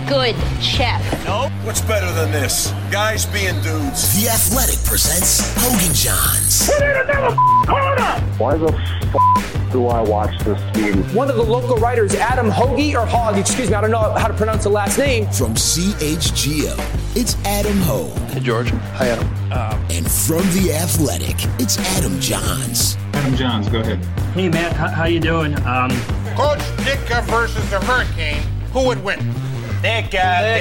good chef. Nope. What's better than this? Guys being dudes. The Athletic presents Hogan Johns. We need another corner! Why the do I watch this game? One of the local writers, Adam Hoagie, or Hogg, excuse me, I don't know how to pronounce the last name. From CHGO, it's Adam Hogue. Hey, George. Hi, Adam. And from The Athletic, it's Adam Johns. Adam Johns, go ahead. Hey, Matt, how you doing? Coach Ditka versus the Hurricane, who would win? Ditka.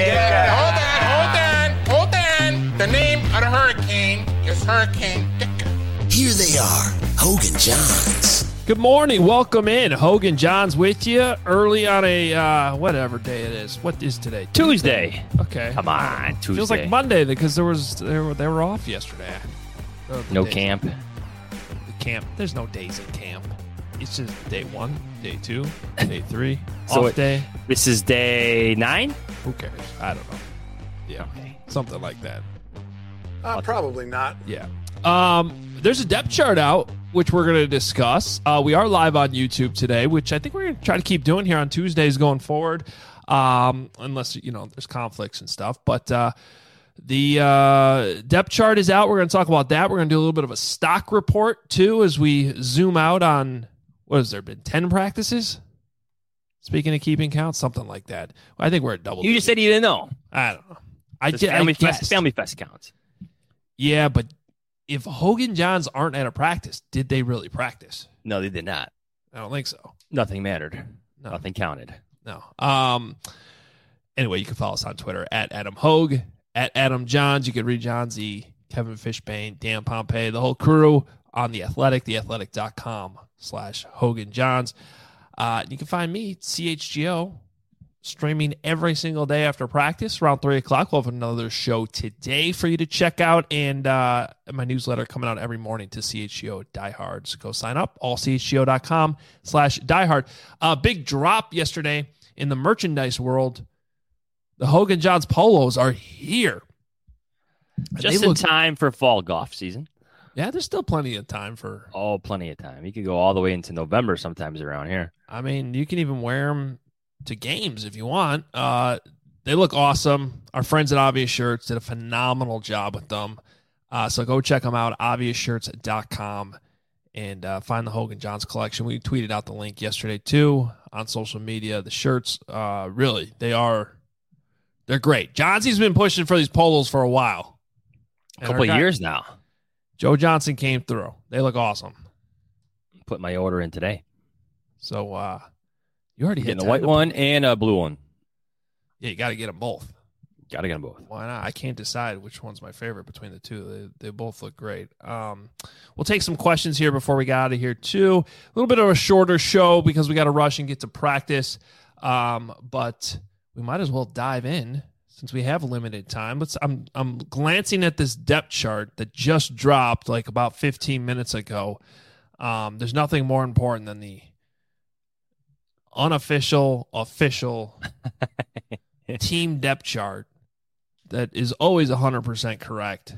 Hold on. The name of the Hurricane is Hurricane Ditka. Here they are, Hogan Johns. Good morning. Welcome in. Hogan Johns with you early on a, whatever day it is. What is today? Tuesday. Okay. Come on, Tuesday. Feels like Monday because they were off yesterday. No camp. The camp. There's no days in camp. It's just day 1, day 2, day 3, off day. This is day 9? Who cares? I don't know. Yeah. Okay. Something like that. Probably not. Yeah. There's a depth chart out, which we're going to discuss. We are live on YouTube today, which I think we're going to try to keep doing here on Tuesdays going forward, unless, there's conflicts and stuff. But the depth chart is out. We're going to talk about that. We're going to do a little bit of a stock report, too, as we zoom out on, what has there been, 10 practices? Speaking of keeping count, something like that. I think we're at double. You just said you didn't know. I don't know. Family Fest counts. Yeah, but if Hogan Johns aren't at a practice, did they really practice? No, they did not. I don't think so. Nothing mattered. No. Nothing counted. No. Anyway, you can follow us on Twitter at Adam Hogue, at Adam Johns. You can read Johnsy, Kevin Fishbane, Dan Pompey, the whole crew on The Athletic, theathletic.com/Hogan Johns. You can find me, CHGO, streaming every single day after practice around 3 o'clock. We'll have another show today for you to check out, and my newsletter coming out every morning to CHGO Diehards. Go sign up, allchgo.com/diehard. Big drop yesterday in the merchandise world. The Hogan Johns polos are here. Just in time for fall golf season. Yeah, there's still plenty of time for... Oh, plenty of time. You could go all the way into November sometimes around here. I mean, you can even wear them to games if you want. They look awesome. Our friends at Obvious Shirts did a phenomenal job with them. So go check them out, obviousshirts.com, and find the Hogan Johns collection. We tweeted out the link yesterday, too, on social media. The shirts, really, they're great. Johnsy's been pushing for these polos for a while. A couple of years now. Joe Johnson came through. They look awesome. Put my order in today. So, you already hit the white one and a blue one. Yeah, you got to get them both. Got to get them both. Why not? I can't decide which one's my favorite between the two. They both look great. We'll take some questions here before we get out of here, too. A little bit of a shorter show because we got to rush and get to practice. But we might as well dive in since we have limited time. I'm glancing at this depth chart that just dropped like about 15 minutes ago. There's nothing more important than the unofficial, official team depth chart that is always 100% correct.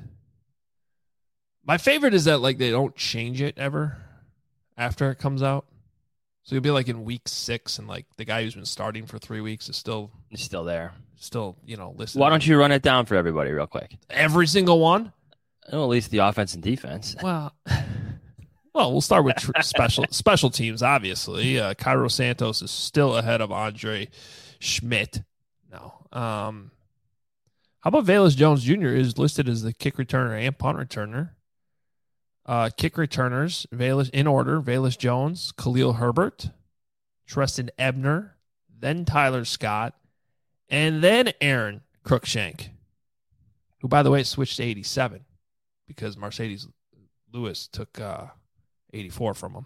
My favorite is that like they don't change it ever after it comes out. So you'll be like in week 6 and like the guy who's been starting for 3 weeks is still there. Still, listening. Why don't you run it down for everybody real quick? Every single one? Well, at least the offense and defense. Well, we'll start with special teams, obviously. Cairo Santos is still ahead of Andre Schmidt. No. How about Velus Jones Jr. is listed as the kick returner and punt returner. Kick returners, Velus in order, Velus Jones, Khalil Herbert, Treston Ebner, then Tyler Scott, and then Aaron Cruikshank, who, by the way, switched to 87 because Mercedes Lewis took 84 from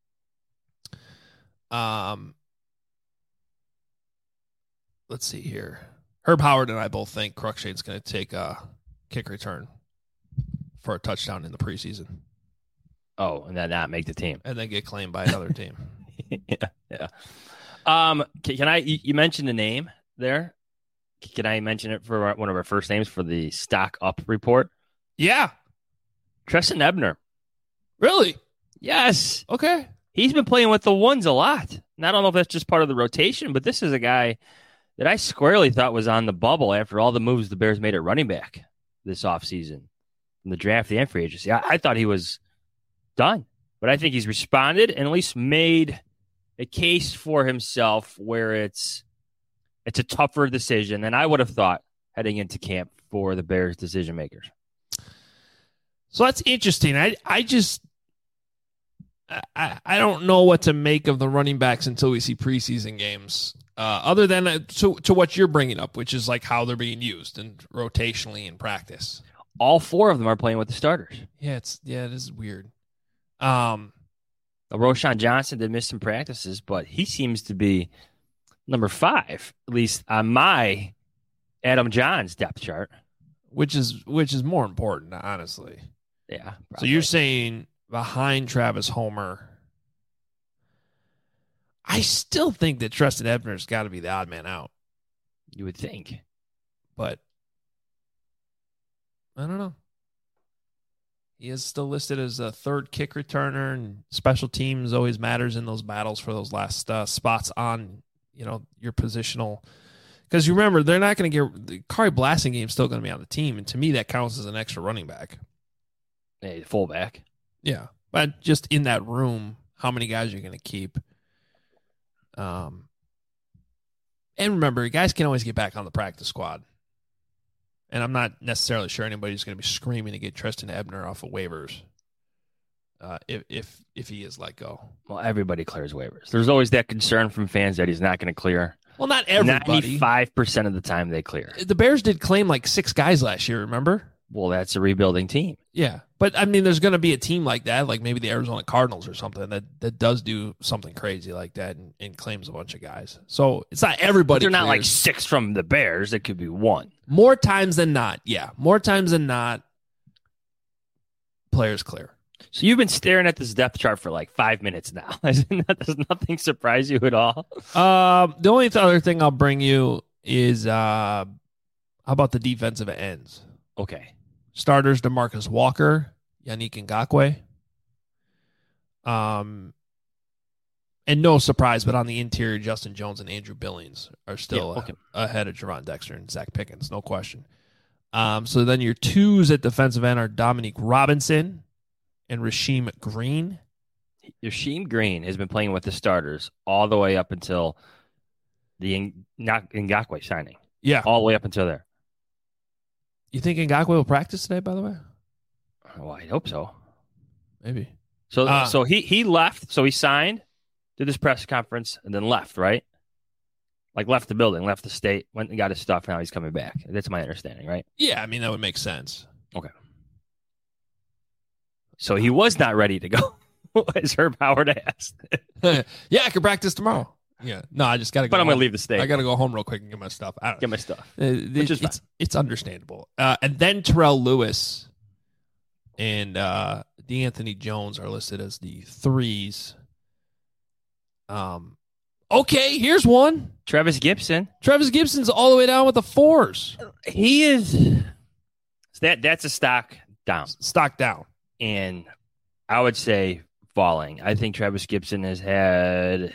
him. Let's see here. Herb Howard and I both think Cruikshank's going to take a kick return for a touchdown in the preseason. Oh, and then not make the team. And then get claimed by another team. Yeah. Can I, you mentioned the name there. Can I mention it for one of our first names for the stock up report? Yeah. Treston Ebner. Really? Yes. Okay. He's been playing with the ones a lot. And I don't know if that's just part of the rotation, but this is a guy that I squarely thought was on the bubble after all the moves the Bears made at running back this offseason from the draft and free agency. I thought he was done, but I think he's responded and at least made a case for himself where it's a tougher decision than I would have thought heading into camp for the Bears decision makers. So that's interesting. I don't know what to make of the running backs until we see preseason games. Other than to what you're bringing up, which is like how they're being used and rotationally in practice. All 4 of them are playing with the starters. Yeah, it is weird. Roshan Johnson did miss some practices, but he seems to be number 5, at least on my Adam Johns depth chart. Which is more important, honestly. Yeah. Probably. So you're saying behind Travis Homer. I still think that Treston Ebner's got to be the odd man out. You would think. But I don't know. He is still listed as a 3rd kick returner, and special teams always matters in those battles for those last spots on, your positional. Because you remember, they're not going to get Kari Blasingame still going to be on the team, and to me, that counts as an extra running back. Hey, fullback. Yeah, but just in that room, how many guys are you going to keep? And remember, guys can always get back on the practice squad. And I'm not necessarily sure anybody's going to be screaming to get Treston Ebner off of waivers if he is let go. Well, everybody clears waivers. There's always that concern from fans that he's not going to clear. Well, not everybody. 95% of the time they clear. The Bears did claim like 6 guys last year, remember? Well, that's a rebuilding team. Yeah. But, I mean, there's going to be a team like that, like maybe the Arizona Cardinals or something, that does do something crazy like that and claims a bunch of guys. So it's not everybody. They're not like 6 from the Bears. It could be 1. More times than not, yeah. More times than not, players clear. So you've been staring at this depth chart for like 5 minutes now. Does nothing surprise you at all? The only other thing I'll bring you is how about the defensive ends? Okay. Starters, DeMarcus Walker, Yannick Ngakoue. And no surprise, but on the interior, Justin Jones and Andrew Billings are still ahead of Jerron Dexter and Zach Pickens, no question. So then your 2s at defensive end are Dominique Robinson and Rasheem Green. Rasheem Green has been playing with the starters all the way up until the Ngakoue signing. Yeah. All the way up until there. You think Ngakoue will practice today, by the way? Well, I hope so. Maybe. So he left. So he signed, did this press conference, and then left, right? Like left the building, left the state, went and got his stuff. Now he's coming back. That's my understanding, right? Yeah, I mean, that would make sense. Okay. So he was not ready to go, as Herb Howard asked. Yeah, I could practice tomorrow. Yeah. No, I just got to go. But I'm going to leave the state. I got to go home real quick and get my stuff. Get my stuff. Which is it's understandable. And then Terrell Lewis and DeAnthony Jones are listed as the 3s. Okay, here's one. Travis Gibson. Travis Gibson's all the way down with the 4s. He is. That's a stock down. Stock down. And I would say falling. I think Travis Gibson has had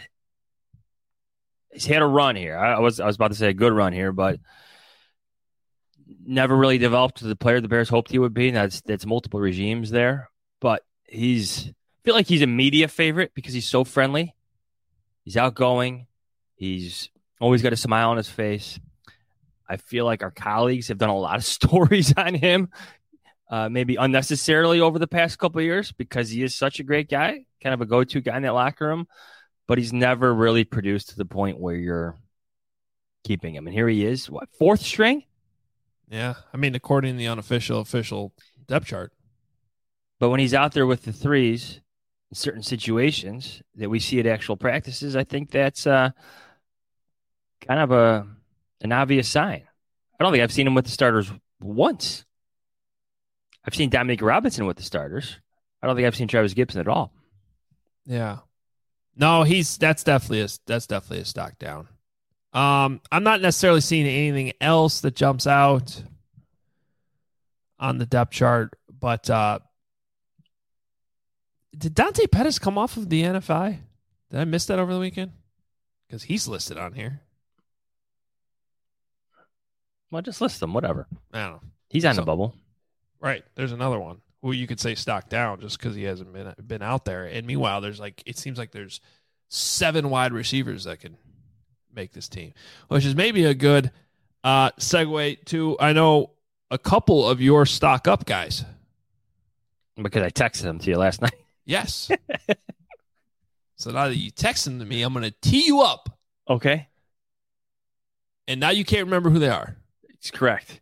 a run here. I was about to say a good run here, but never really developed to the player the Bears hoped he would be. That's multiple regimes there. But I feel like he's a media favorite because he's so friendly. He's outgoing. He's always got a smile on his face. I feel like our colleagues have done a lot of stories on him, maybe unnecessarily over the past couple of years because he is such a great guy, kind of a go-to guy in that locker room, but he's never really produced to the point where you're keeping him. And here he is, 4th string? Yeah, I mean, according to the official depth chart. But when he's out there with the 3s in certain situations that we see at actual practices, I think that's kind of an obvious sign. I don't think I've seen him with the starters once. I've seen Dominique Robinson with the starters. I don't think I've seen Travis Gibson at all. Yeah. No, that's definitely a stock down. I'm not necessarily seeing anything else that jumps out on the depth chart, but did Dante Pettis come off of the NFI? Did I miss that over the weekend? Because he's listed on here. Well, just list them. Whatever. I don't know. He's on the bubble. Right. There's another one who you could say stock down just because he hasn't been out there. And meanwhile, it seems like there's 7 wide receivers that can make this team, which is maybe a good segue to, I know, a couple of your stock up guys. Because I texted them to you last night. Yes. So now that you text them to me, I'm going to tee you up. Okay. And now you can't remember who they are. It's correct.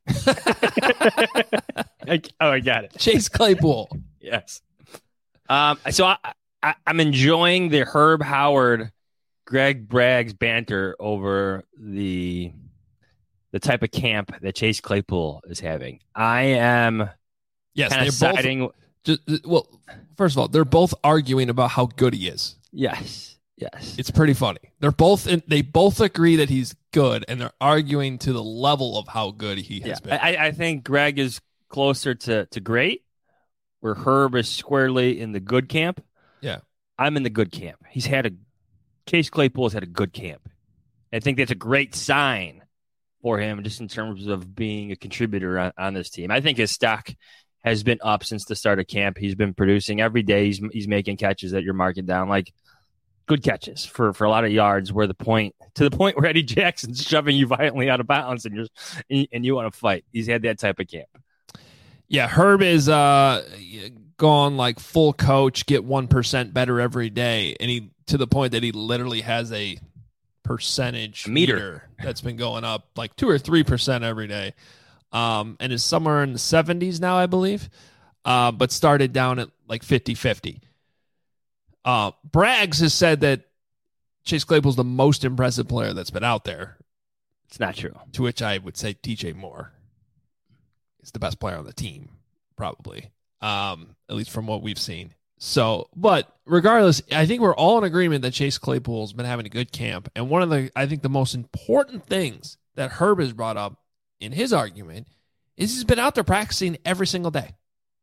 I got it. Chase Claypool. Yes. So I'm enjoying the Herb Howard, Greg Bragg's banter over the type of camp that Chase Claypool is having. I am kind of siding. Well, first of all, they're both arguing about how good he is. Yes. It's pretty funny. They both agree that he's good, and they're arguing to the level of how good he has been. I think Greg is closer to great, where Herb is squarely in the good camp. Yeah. I'm in the good camp. Chase Claypool has had a good camp. I think that's a great sign for him just in terms of being a contributor on this team. I think his stock has been up since the start of camp. He's been producing every day. He's making catches that you're marking down, like good catches for a lot of yards, to the point where Eddie Jackson's shoving you violently out of bounds and you want to fight. He's had that type of camp. Yeah, Herb is gone like full coach, get 1% better every day, and he to the point that he literally has a percentage meter that's been going up like 2 or 3% every day, and is somewhere in the 70s now, I believe, but started down at like 50-50. Braggs has said that Chase Claypool's the most impressive player that's been out there. It's not true. To which I would say DJ Moore is the best player on the team, probably, at least from what we've seen. So, but regardless, I think we're all in agreement that Chase Claypool's been having a good camp. And one of the most important things that Herb has brought up in his argument is he's been out there practicing every single day.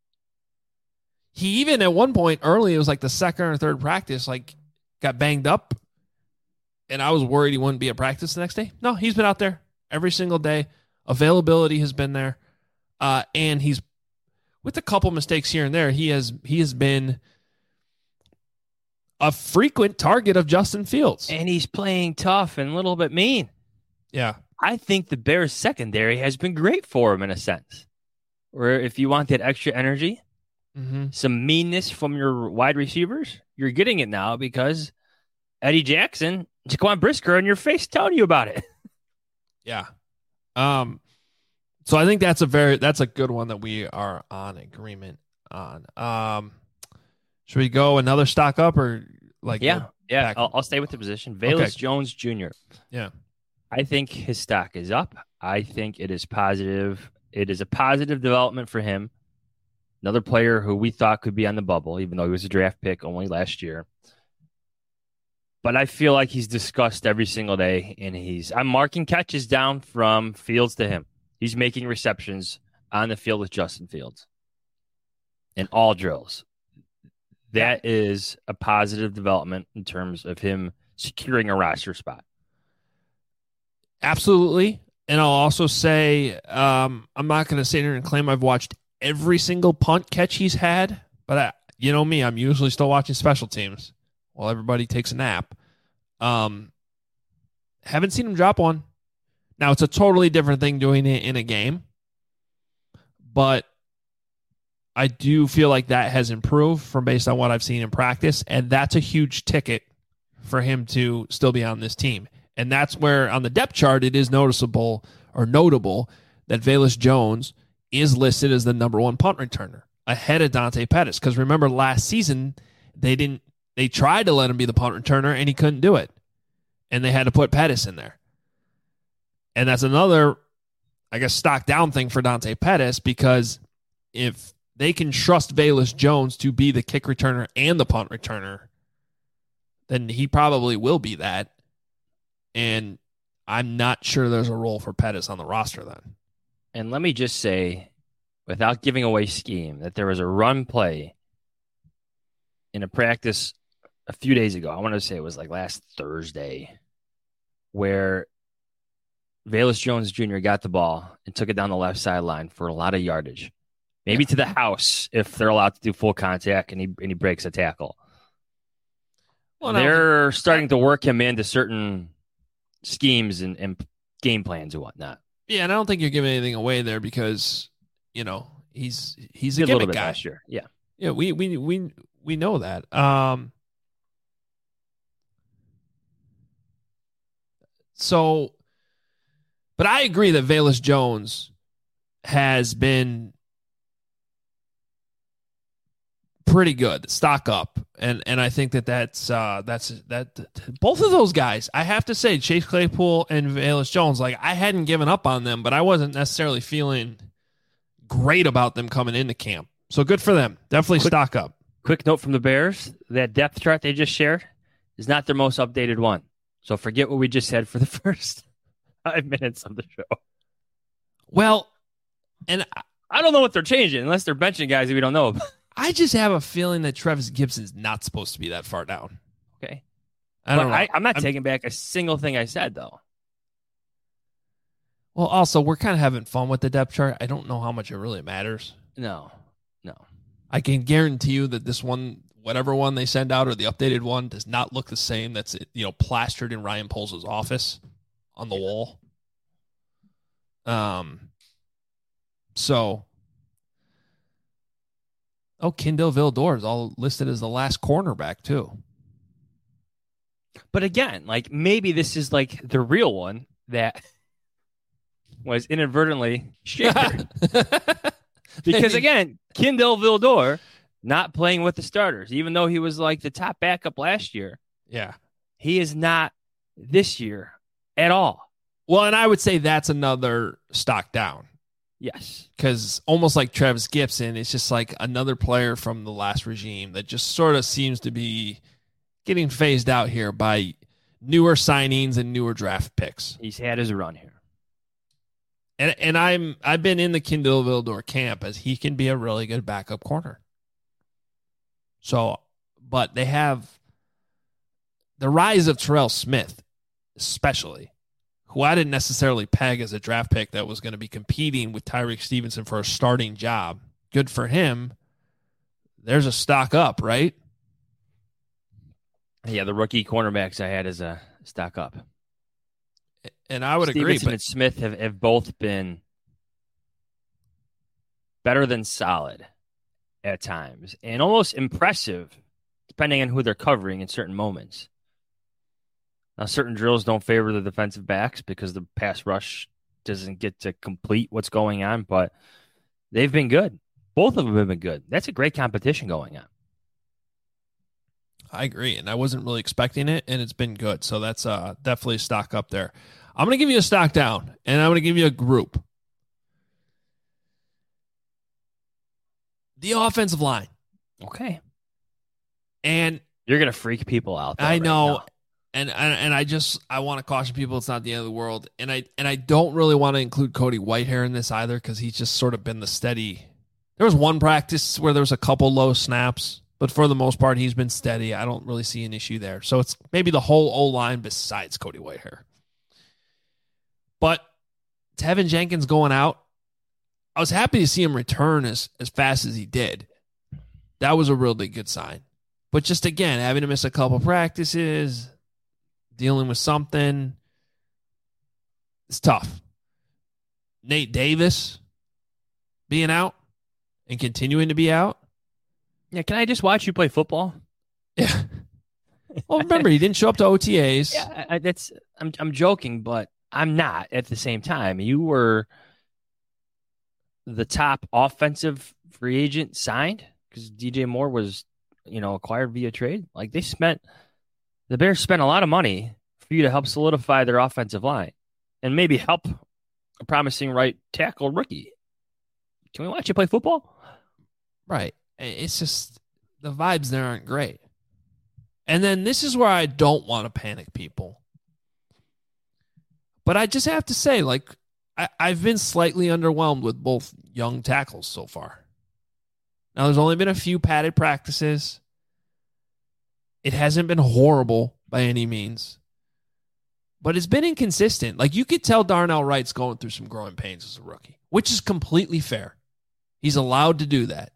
He even at one point early, it was like the second or third practice, like got banged up. And I was worried he wouldn't be at practice the next day. No, he's been out there every single day. Availability has been there. And he's, with a couple mistakes here and there, he has been a frequent target of Justin Fields. And he's playing tough and a little bit mean. Yeah. I think the Bears secondary has been great for him in a sense. Where if you want that extra energy, some meanness from your wide receivers, you're getting it now because Eddie Jackson, Jaquan Brisker in your face telling you about it. Yeah. So I think that's a good one that we are on agreement on. Should we go another stock up or like? Yeah. I'll stay with the position. Velus Jones Jr. Yeah. I think his stock is up. I think it is positive. It is a positive development for him. Another player who we thought could be on the bubble, even though he was a draft pick only last year. But I feel like he's discussed every single day, and I'm marking catches down from Fields to him. He's making receptions on the field with Justin Fields in all drills. That is a positive development in terms of him securing a roster spot. Absolutely. And I'll also say, I'm not going to sit here and claim I've watched every single punt catch he's had, but you know me, I'm usually still watching special teams while everybody takes a nap. Haven't seen him drop one. Now, it's a totally different thing doing it in a game, but I do feel like that has improved from based on what I've seen in practice, and that's a huge ticket for him to still be on this team. And that's where on the depth chart it is noticeable or notable that Velus Jones is listed as the number 1 punt returner ahead of Dante Pettis. Because remember last season, they tried to let him be the punt returner and he couldn't do it. And they had to put Pettis in there. And that's another, I guess, stock down thing for Dante Pettis, because if they can trust Velus Jones to be the kick returner and the punt returner, then he probably will be that. And I'm not sure there's a role for Pettis on the roster then. And let me just say, without giving away scheme, that there was a run play in a practice a few days ago. I want to say it was like last Thursday, where Velus Jones Jr. got the ball and took it down the left sideline for a lot of yardage. Maybe to the house if they're allowed to do full contact and he breaks a tackle. Well, they're starting to work him into certain schemes and game plans and whatnot. Yeah, and I don't think you're giving anything away there because, you know, he's a gimmick guy. Last year. Yeah. Yeah, we know that. So, but I agree that Velus Jones has been pretty good. Stock up, and I think that's both of those guys. I have to say, Chase Claypool and Velus Jones. Like, I hadn't given up on them, but I wasn't necessarily feeling great about them coming into camp. So good for them. Definitely stock up. Quick note from the Bears: that depth chart they just shared is not their most updated one. So forget what we just said for the first 5 minutes of the show. Well, and I don't know what they're changing unless they're benching guys that we don't know about. I just have a feeling that Travis Gibson's not supposed to be that far down. Okay. I don't know. I'm not taking back a single thing I said, though. Well, also, we're kind of having fun with the depth chart. I don't know how much it really matters. No. I can guarantee you that this one, whatever one they send out or the updated one, does not look the same. That's, you know, plastered in Ryan Poles' office on the wall. So, Kindle Vildor is all listed as the last cornerback too. But again, like maybe this is like the real one that was inadvertently shared. Because again, Kindle Vildor not playing with the starters, even though he was like the top backup last year. Yeah. He is not this year at all. Well, and I would say that's another stock down. Yes. Because almost like Travis Gibson, it's just like another player from the last regime that just sort of seems to be getting phased out here by newer signings and newer draft picks. He's had his run here. And I've been in the Kindle Vildor camp as he can be a really good backup corner. So, but they have the rise of Terrell Smith, especially, who I didn't necessarily peg as a draft pick that was going to be competing with Tyreek Stevenson for a starting job. Good for him. There's a stock up, right? Yeah, the rookie cornerbacks I had as a stock up. And I would Stevenson agree. But and Smith have both been better than solid at times and almost impressive, depending on who they're covering in certain moments. Now, certain drills don't favor the defensive backs because the pass rush doesn't get to complete what's going on, but they've been good. Both of them have been good. That's a great competition going on. I agree, and I wasn't really expecting it, and it's been good. So that's definitely a stock up there. I'm going to give you a stock down, and I'm going to give you a group. The offensive line. Okay. And you're going to freak people out. I know. And I want to caution people it's not the end of the world. And I don't really want to include Cody Whitehair in this either because he's just sort of been the steady. There was one practice where there was a couple low snaps, but for the most part, he's been steady. I don't really see an issue there. So it's maybe the whole O-line besides Cody Whitehair. But Tevin Jenkins going out, I was happy to see him return as fast as he did. That was a really good sign. But just, again, having to miss a couple practices, dealing with something, it's tough. Nate Davis being out and continuing to be out. Yeah, can I just watch you play football? Yeah. Well, remember, he didn't show up to OTAs. Yeah, I'm joking, but I'm not at the same time. You were the top offensive free agent signed because DJ Moore was, acquired via trade. Like the Bears spent a lot of money for you to help solidify their offensive line and maybe help a promising right tackle rookie. Can we watch you play football? Right. It's just the vibes there aren't great. And then this is where I don't want to panic people. But I just have to say, I've been slightly underwhelmed with both young tackles so far. Now, there's only been a few padded practices. It hasn't been horrible by any means. but it's been inconsistent. Like, you could tell Darnell Wright's going through some growing pains as a rookie, which is completely fair. He's allowed to do that.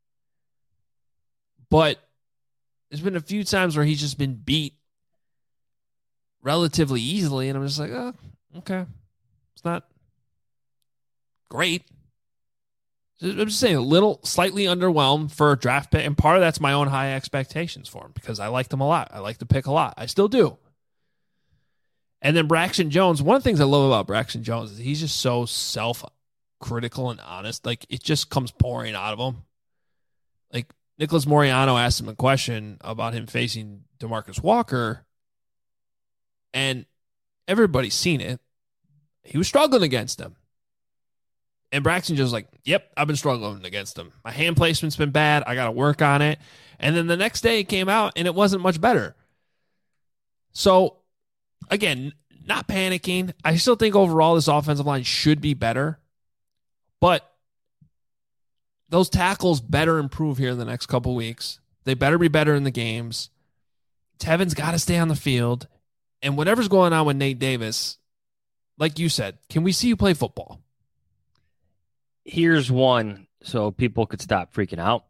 But there's been a few times where he's just been beat relatively easily, and I'm just like, oh, okay. It's not great. I'm just saying, a little slightly underwhelmed for a draft pick, and part of that's my own high expectations for him because I liked him a lot. I like the pick a lot. I still do. And then Braxton Jones, one of the things I love about Braxton Jones is he's just so self-critical and honest. Like, it just comes pouring out of him. Like, Nicholas Moriano asked him a question about him facing DeMarcus Walker, and everybody's seen it. He was struggling against him. And Braxton just was like, yep, I've been struggling against him. My hand placement's been bad. I got to work on it. And then the next day it came out, and it wasn't much better. So, again, not panicking. I still think overall this offensive line should be better. But those tackles better improve here in the next couple weeks. They better be better in the games. Tevin's got to stay on the field. And whatever's going on with Nate Davis, like you said, can we see you play football? Here's one so people could stop freaking out.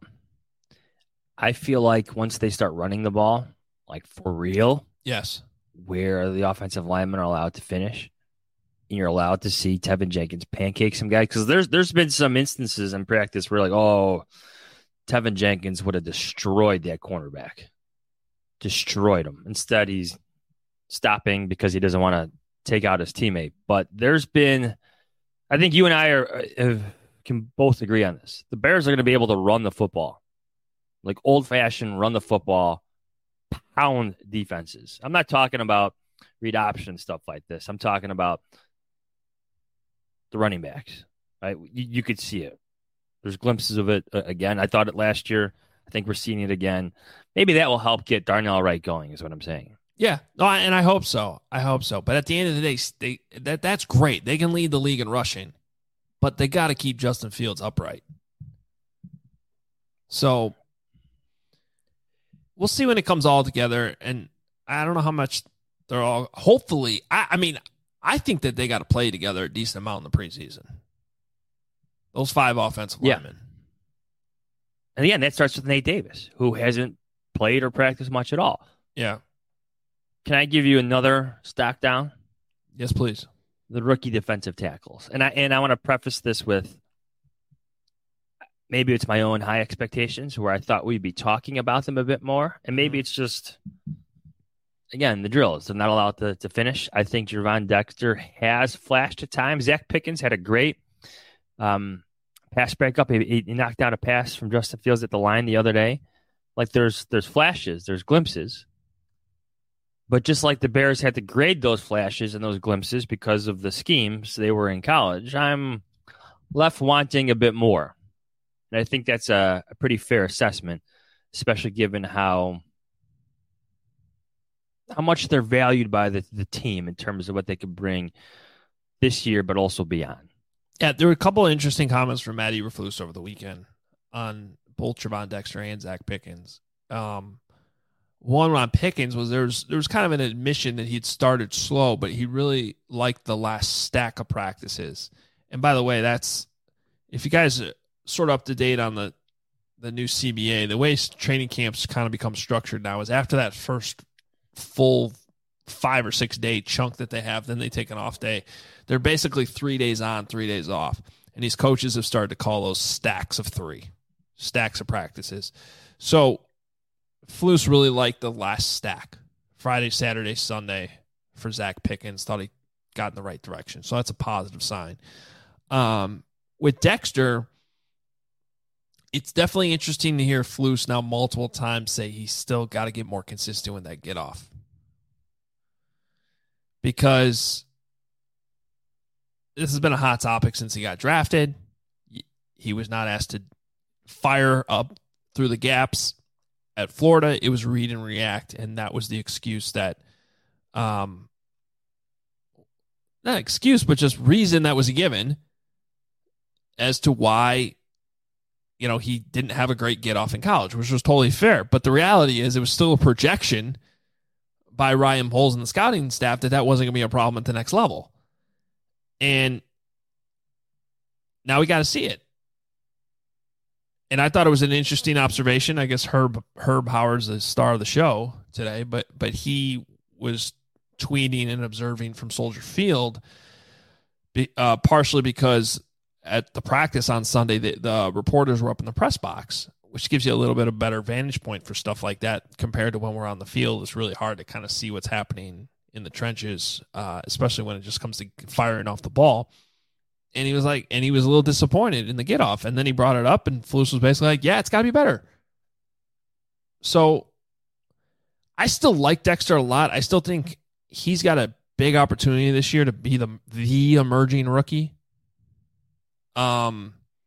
I feel like once they start running the ball, like for real, yes, where the offensive linemen are allowed to finish, and you're allowed to see Tevin Jenkins pancake some guy, because there's been some instances in practice where like, oh, Tevin Jenkins would have destroyed that cornerback. Destroyed him. Instead, he's stopping because he doesn't want to take out his teammate. But there's been, I think you and I can both agree on this. The Bears are going to be able to run the football, like old-fashioned run the football, pound defenses. I'm not talking about read option stuff like this. I'm talking about the running backs. Right? You could see it. There's glimpses of it again. I thought it last year. I think we're seeing it again. Maybe that will help get Darnell Wright going, is what I'm saying. Yeah, no, and I hope so. I hope so. But at the end of the day, that's great. They can lead the league in rushing, but they got to keep Justin Fields upright. So we'll see when it comes all together. And I don't know how much they're all. Hopefully, I think that they got to play together a decent amount in the preseason. Those 5 offensive linemen. And again, that starts with Nate Davis, who hasn't played or practiced much at all. Yeah. Can I give you another stock down? Yes, please. The rookie defensive tackles. And I want to preface this with maybe it's my own high expectations where I thought we'd be talking about them a bit more. And maybe it's just, again, the drill is they're not allowed to finish. I think Gervon Dexter has flashed at times. Zach Pickens had a great pass breakup. He knocked down a pass from Justin Fields at the line the other day. Like there's flashes, there's glimpses. But just like the Bears had to grade those flashes and those glimpses because of the schemes they were in college, I'm left wanting a bit more. And I think that's a pretty fair assessment, especially given how much they're valued by the team in terms of what they could bring this year, but also beyond. Yeah, there were a couple of interesting comments from Matt Eberflus over the weekend on both Gervon Dexter and Zach Pickens. One on Pickens was there was kind of an admission that he'd started slow, but he really liked the last stack of practices. And by the way, that's if you guys are sort of up to date on the new CBA, the way training camps kind of become structured now is after that first full 5 or 6 day chunk that they have, then they take an off day. They're basically 3 days on, 3 days off. And these coaches have started to call those stacks of 3, stacks of practices. So Flus really liked the last stack, Friday, Saturday, Sunday for Zach Pickens. Thought he got in the right direction. So that's a positive sign. With Dexter, it's definitely interesting to hear Flus now multiple times say he's still got to get more consistent with that get off. Because this has been a hot topic since he got drafted. He was not asked to fire up through the gaps at Florida. It was read and react, and that was the excuse that, not excuse, but just reason that was given as to why, he didn't have a great get off in college, which was totally fair. But the reality is it was still a projection by Ryan Poles and the scouting staff that wasn't going to be a problem at the next level. And now we got to see it. And I thought it was an interesting observation. I guess Herb Howard's the star of the show today, but he was tweeting and observing from Soldier Field, partially because at the practice on Sunday, the reporters were up in the press box, which gives you a little bit of better vantage point for stuff like that compared to when we're on the field. It's really hard to kind of see what's happening in the trenches, especially when it just comes to firing off the ball. And he was a little disappointed in the get off. And then he brought it up, and Flus was basically like, yeah, it's got to be better. So I still like Dexter a lot. I still think he's got a big opportunity this year to be the emerging rookie. But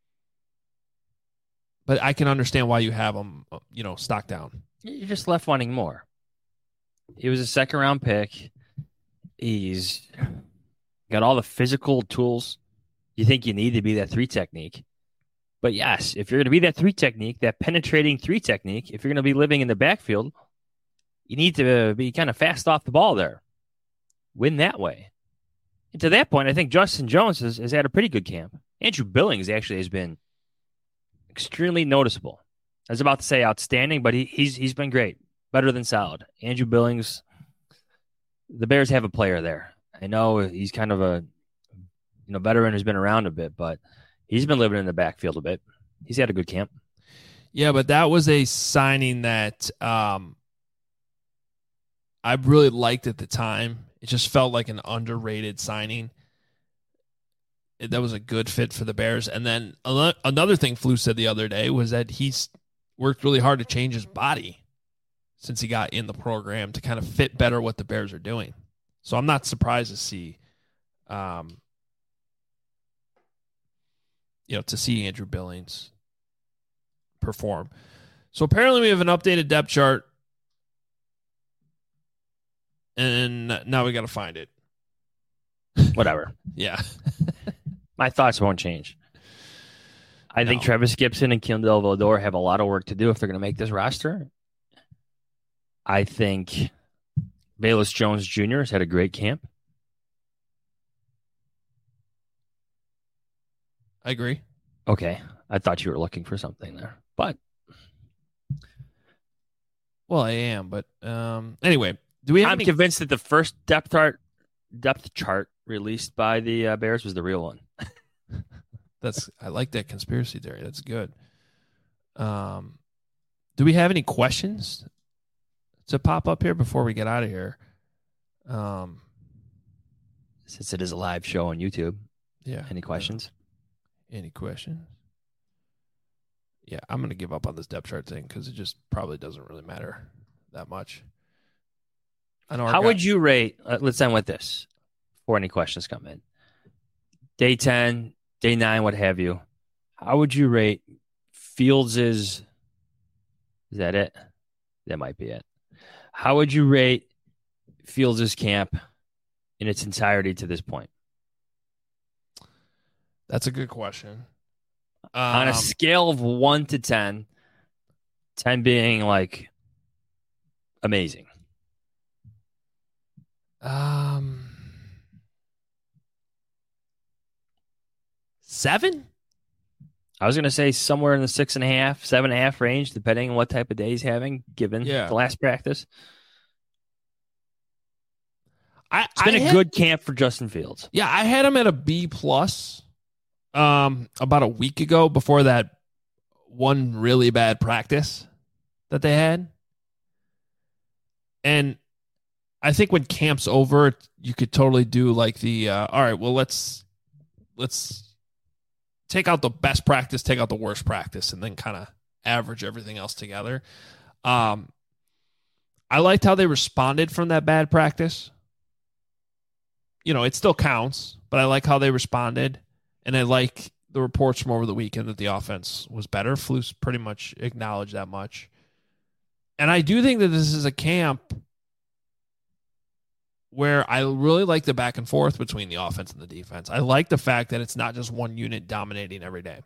I can understand why you have him, stock down. You're just left wanting more. He was a second-round pick. He's got all the physical tools you think you need to be that 3 technique. But yes, if you're going to be that 3 technique, that penetrating 3 technique, if you're going to be living in the backfield, you need to be kind of fast off the ball there. Win that way. And to that point, I think Justin Jones has had a pretty good camp. Andrew Billings actually has been extremely noticeable. I was about to say outstanding, but he's been great. Better than solid. Andrew Billings, the Bears have a player there. I know he's kind of a veteran who's been around a bit, but he's been living in the backfield a bit. He's had a good camp. Yeah, but that was a signing that I really liked at the time. It just felt like an underrated signing. That was a good fit for the Bears. And then another thing Flus said the other day was that he's worked really hard to change his body since he got in the program to kind of fit better what the Bears are doing. So I'm not surprised to see to see Andrew Billings perform. So apparently we have an updated depth chart, and now we got to find it. Whatever. Yeah. My thoughts won't change. I think Travis Gibson and Kindle Vildor have a lot of work to do if they're going to make this roster. I think Velus Jones Jr. has had a great camp. I agree. Okay. I thought you were looking for something there. But well, I am, but anyway, I'm convinced that the first depth chart released by the Bears was the real one. I like that conspiracy theory. That's good. Do we have any questions to pop up here before we get out of here? Since it is a live show on YouTube. Yeah. Any questions? Any questions? Yeah, I'm going to give up on this depth chart thing because it just probably doesn't really matter that much. I know. How would you rate? Let's end with this before any questions come in. Day 10, day 9, what have you. How would you rate Fields' Is that it? That might be it. How would you rate Fields' camp in its entirety to this point? That's a good question. On a scale of 1 to 10, 10 being like amazing. 7? I was going to say somewhere in the 6.5, 7.5 range, depending on what type of day he's having, given the last practice. It's been a good camp for Justin Fields. Yeah, I had him at a B+. About a week ago, before that one really bad practice that they had. And I think when camp's over, you could totally do like the all right, well, let's take out the best practice, take out the worst practice, and then kind of average everything else together. I liked how they responded from that bad practice. It still counts, but I like how they responded. And I like the reports from over the weekend that the offense was better. Flus pretty much acknowledged that much. And I do think that this is a camp where I really like the back and forth between the offense and the defense. I like the fact that it's not just one unit dominating every day.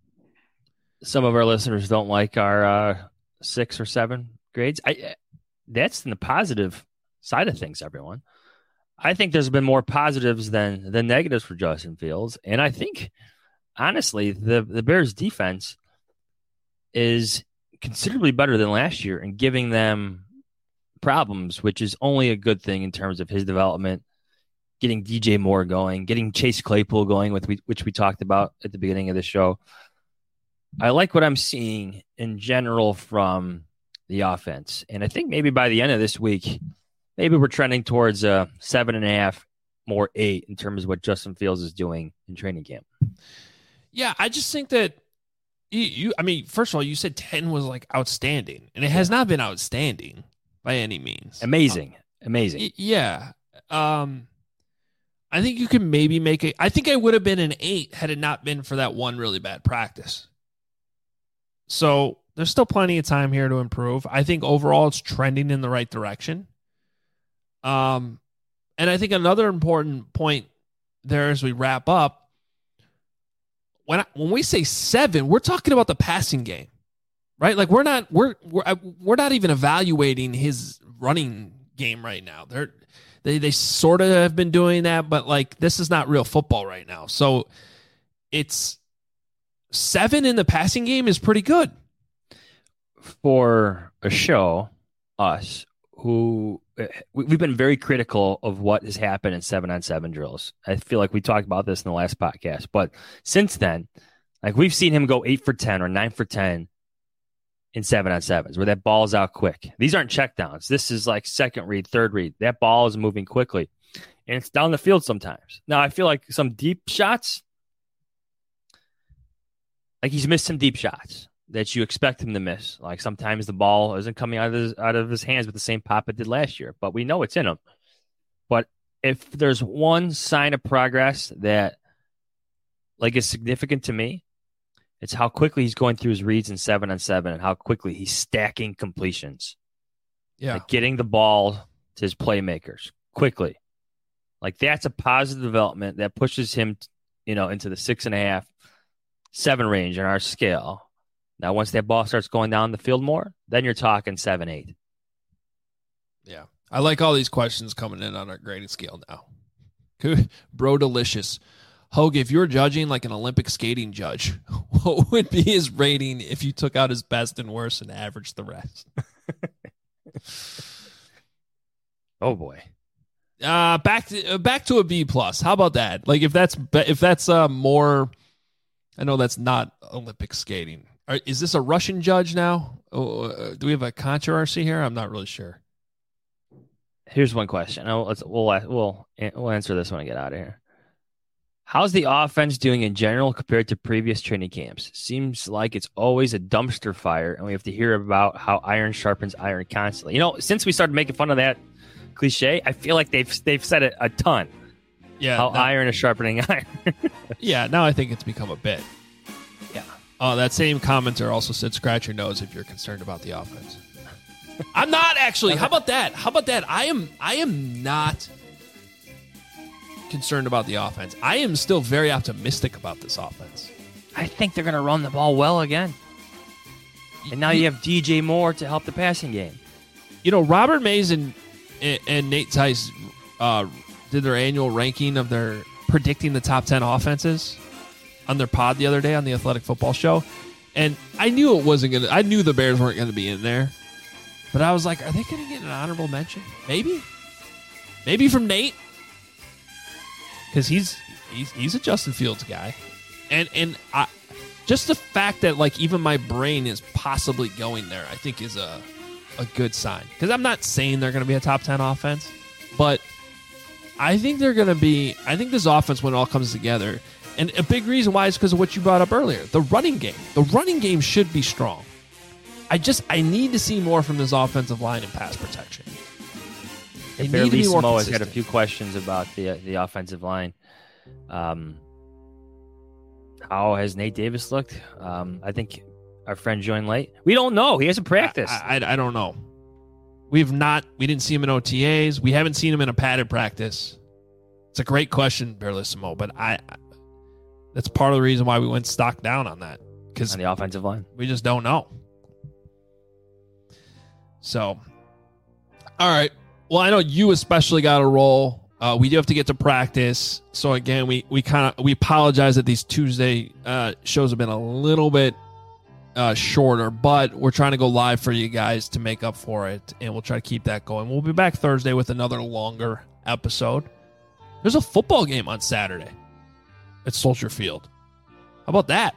Some of our listeners don't like our 6 or 7 grades. that's the positive side of things, everyone. I think there's been more positives than negatives for Justin Fields. And I think, honestly, the Bears defense is considerably better than last year and giving them problems, which is only a good thing in terms of his development, getting DJ Moore going, getting Chase Claypool going, which we talked about at the beginning of the show. I like what I'm seeing in general from the offense. And I think maybe by the end of this week, maybe we're trending towards a 7.5, more 8 in terms of what Justin Fields is doing in training camp. Yeah, I just think that I mean, first of all, you said 10 was like outstanding, and it has not been outstanding by any means. Amazing. Yeah. I think you can maybe make it. I think I would have been an 8 had it not been for that one really bad practice. So there's still plenty of time here to improve. I think overall it's trending in the right direction. And I think another important point there as we wrap up, when we say 7, we're talking about the passing game, right? Like we're not even evaluating his running game right now. They sort of have been doing that, but like this is not real football right now. So it's 7 in the passing game is pretty good for a show. Us who we've been very critical of what has happened in 7-on-7 drills. I feel like we talked about this in the last podcast, but since then, like we've seen him go 8 for 10 or 9 for 10 in 7-on-7s where that ball's out quick. These aren't checkdowns. This is like second read, third read. That ball is moving quickly and it's down the field sometimes. Now I feel like some deep shots, like he's missed some deep shots that you expect him to miss. Like sometimes the ball isn't coming out of his hands with the same pop it did last year, but we know it's in him. But if there's one sign of progress that like is significant to me, it's how quickly he's going through his reads in 7-on-7 and how quickly he's stacking completions. Yeah. Like getting the ball to his playmakers quickly. Like that's a positive development that pushes him, into the 6.5, 7 range in our scale. Now, once that ball starts going down the field more, then you're talking 7-8. Yeah. I like all these questions coming in on our grading scale now. Bro delicious. Hogue, if you were judging like an Olympic skating judge, what would be his rating if you took out his best and worst and averaged the rest? Oh boy. Back to a B+. How about that? Like if that's more, I know that's not Olympic skating. Is this a Russian judge now? Do we have a controversy here? I'm not really sure. Here's one question. We'll answer this when I get out of here. How's the offense doing in general compared to previous training camps? Seems like it's always a dumpster fire, and we have to hear about how iron sharpens iron constantly. Since we started making fun of that cliche, I feel like they've said it a ton. Yeah, how iron is sharpening iron. Yeah, now I think it's become a bit. Yeah. That same commenter also said, "Scratch your nose if you're concerned about the offense." I'm not actually. How about that? I am not concerned about the offense. I am still very optimistic about this offense. I think they're going to run the ball well again. And now you have DJ Moore to help the passing game. Robert Mays and Nate Tice did their annual ranking of their predicting the top 10 offenses on their pod the other day on the Athletic Football Show. And I knew I knew the Bears weren't going to be in there. But I was like, are they going to get an honorable mention? Maybe from Nate. Because he's a Justin Fields guy. And just the fact that like even my brain is possibly going there, I think is a good sign. Because I'm not saying they're going to be a top 10 offense, but I think they're going to be. I think this offense, when it all comes together, and a big reason why is because of what you brought up earlier, the running game. The running game should be strong. I need to see more from this offensive line and pass protection. They need to be more Samoa has consistent. got a few questions about the offensive line. How has Nate Davis looked? I think our friend joined late. We don't know. He hasn't practiced. I don't know. We didn't see him in OTAs. We haven't seen him in a padded practice. It's a great question, Berlissimo, but that's part of the reason why we went stock down on that. Because on the offensive line. We just don't know. So All right. Well, I know you especially got to roll. We do have to get to practice. So again, we apologize that these Tuesday shows have been a little bit shorter, but we're trying to go live for you guys to make up for it, and we'll try to keep that going. We'll be back Thursday with another longer episode. There's a football game on Saturday at Soldier Field. How about that?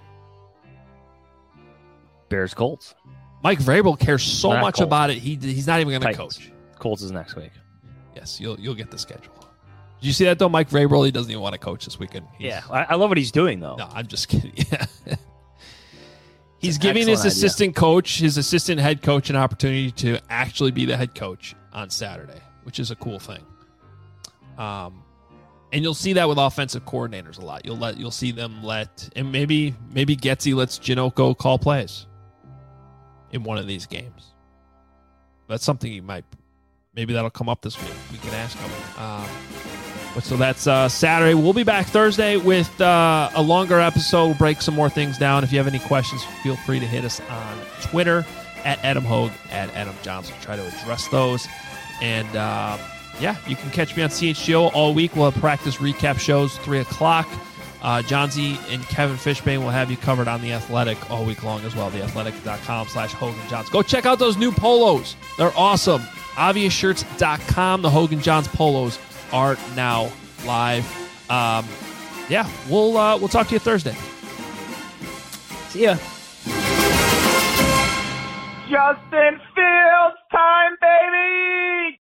Bears Colts. Mike Vrabel cares so Not much Colts. about it. He's not even going to Titans. coach. Colts is next week. Yes, you'll get the schedule. Did you see that though? Mike Vrabel, he doesn't even want to coach this weekend. I love what he's doing though. No, I'm just kidding. Yeah. He's an giving his excellent assistant coach, his assistant head coach, an opportunity to actually be the head coach on Saturday, which is a cool thing. And you'll see that with offensive coordinators a lot. You'll see them and maybe Getsy lets Janocko call plays in one of these games. That's something maybe that'll come up this week. We can ask him. But so that's Saturday. We'll be back Thursday with a longer episode. We'll break some more things down. If you have any questions, feel free to hit us on Twitter at Adam Hogue, at Adam Johnson. Try to address those. And you can catch me on CHGO all week. We'll have practice recap shows 3 o'clock. John Z and Kevin Fishbane will have you covered on The Athletic all week long as well. TheAthletic.com/HoganJohns. Go check out those new polos. They're awesome. Obviousshirts.com. The Hogan Johns polos are now live. We'll talk to you Thursday. See ya. Justin Fields time, baby!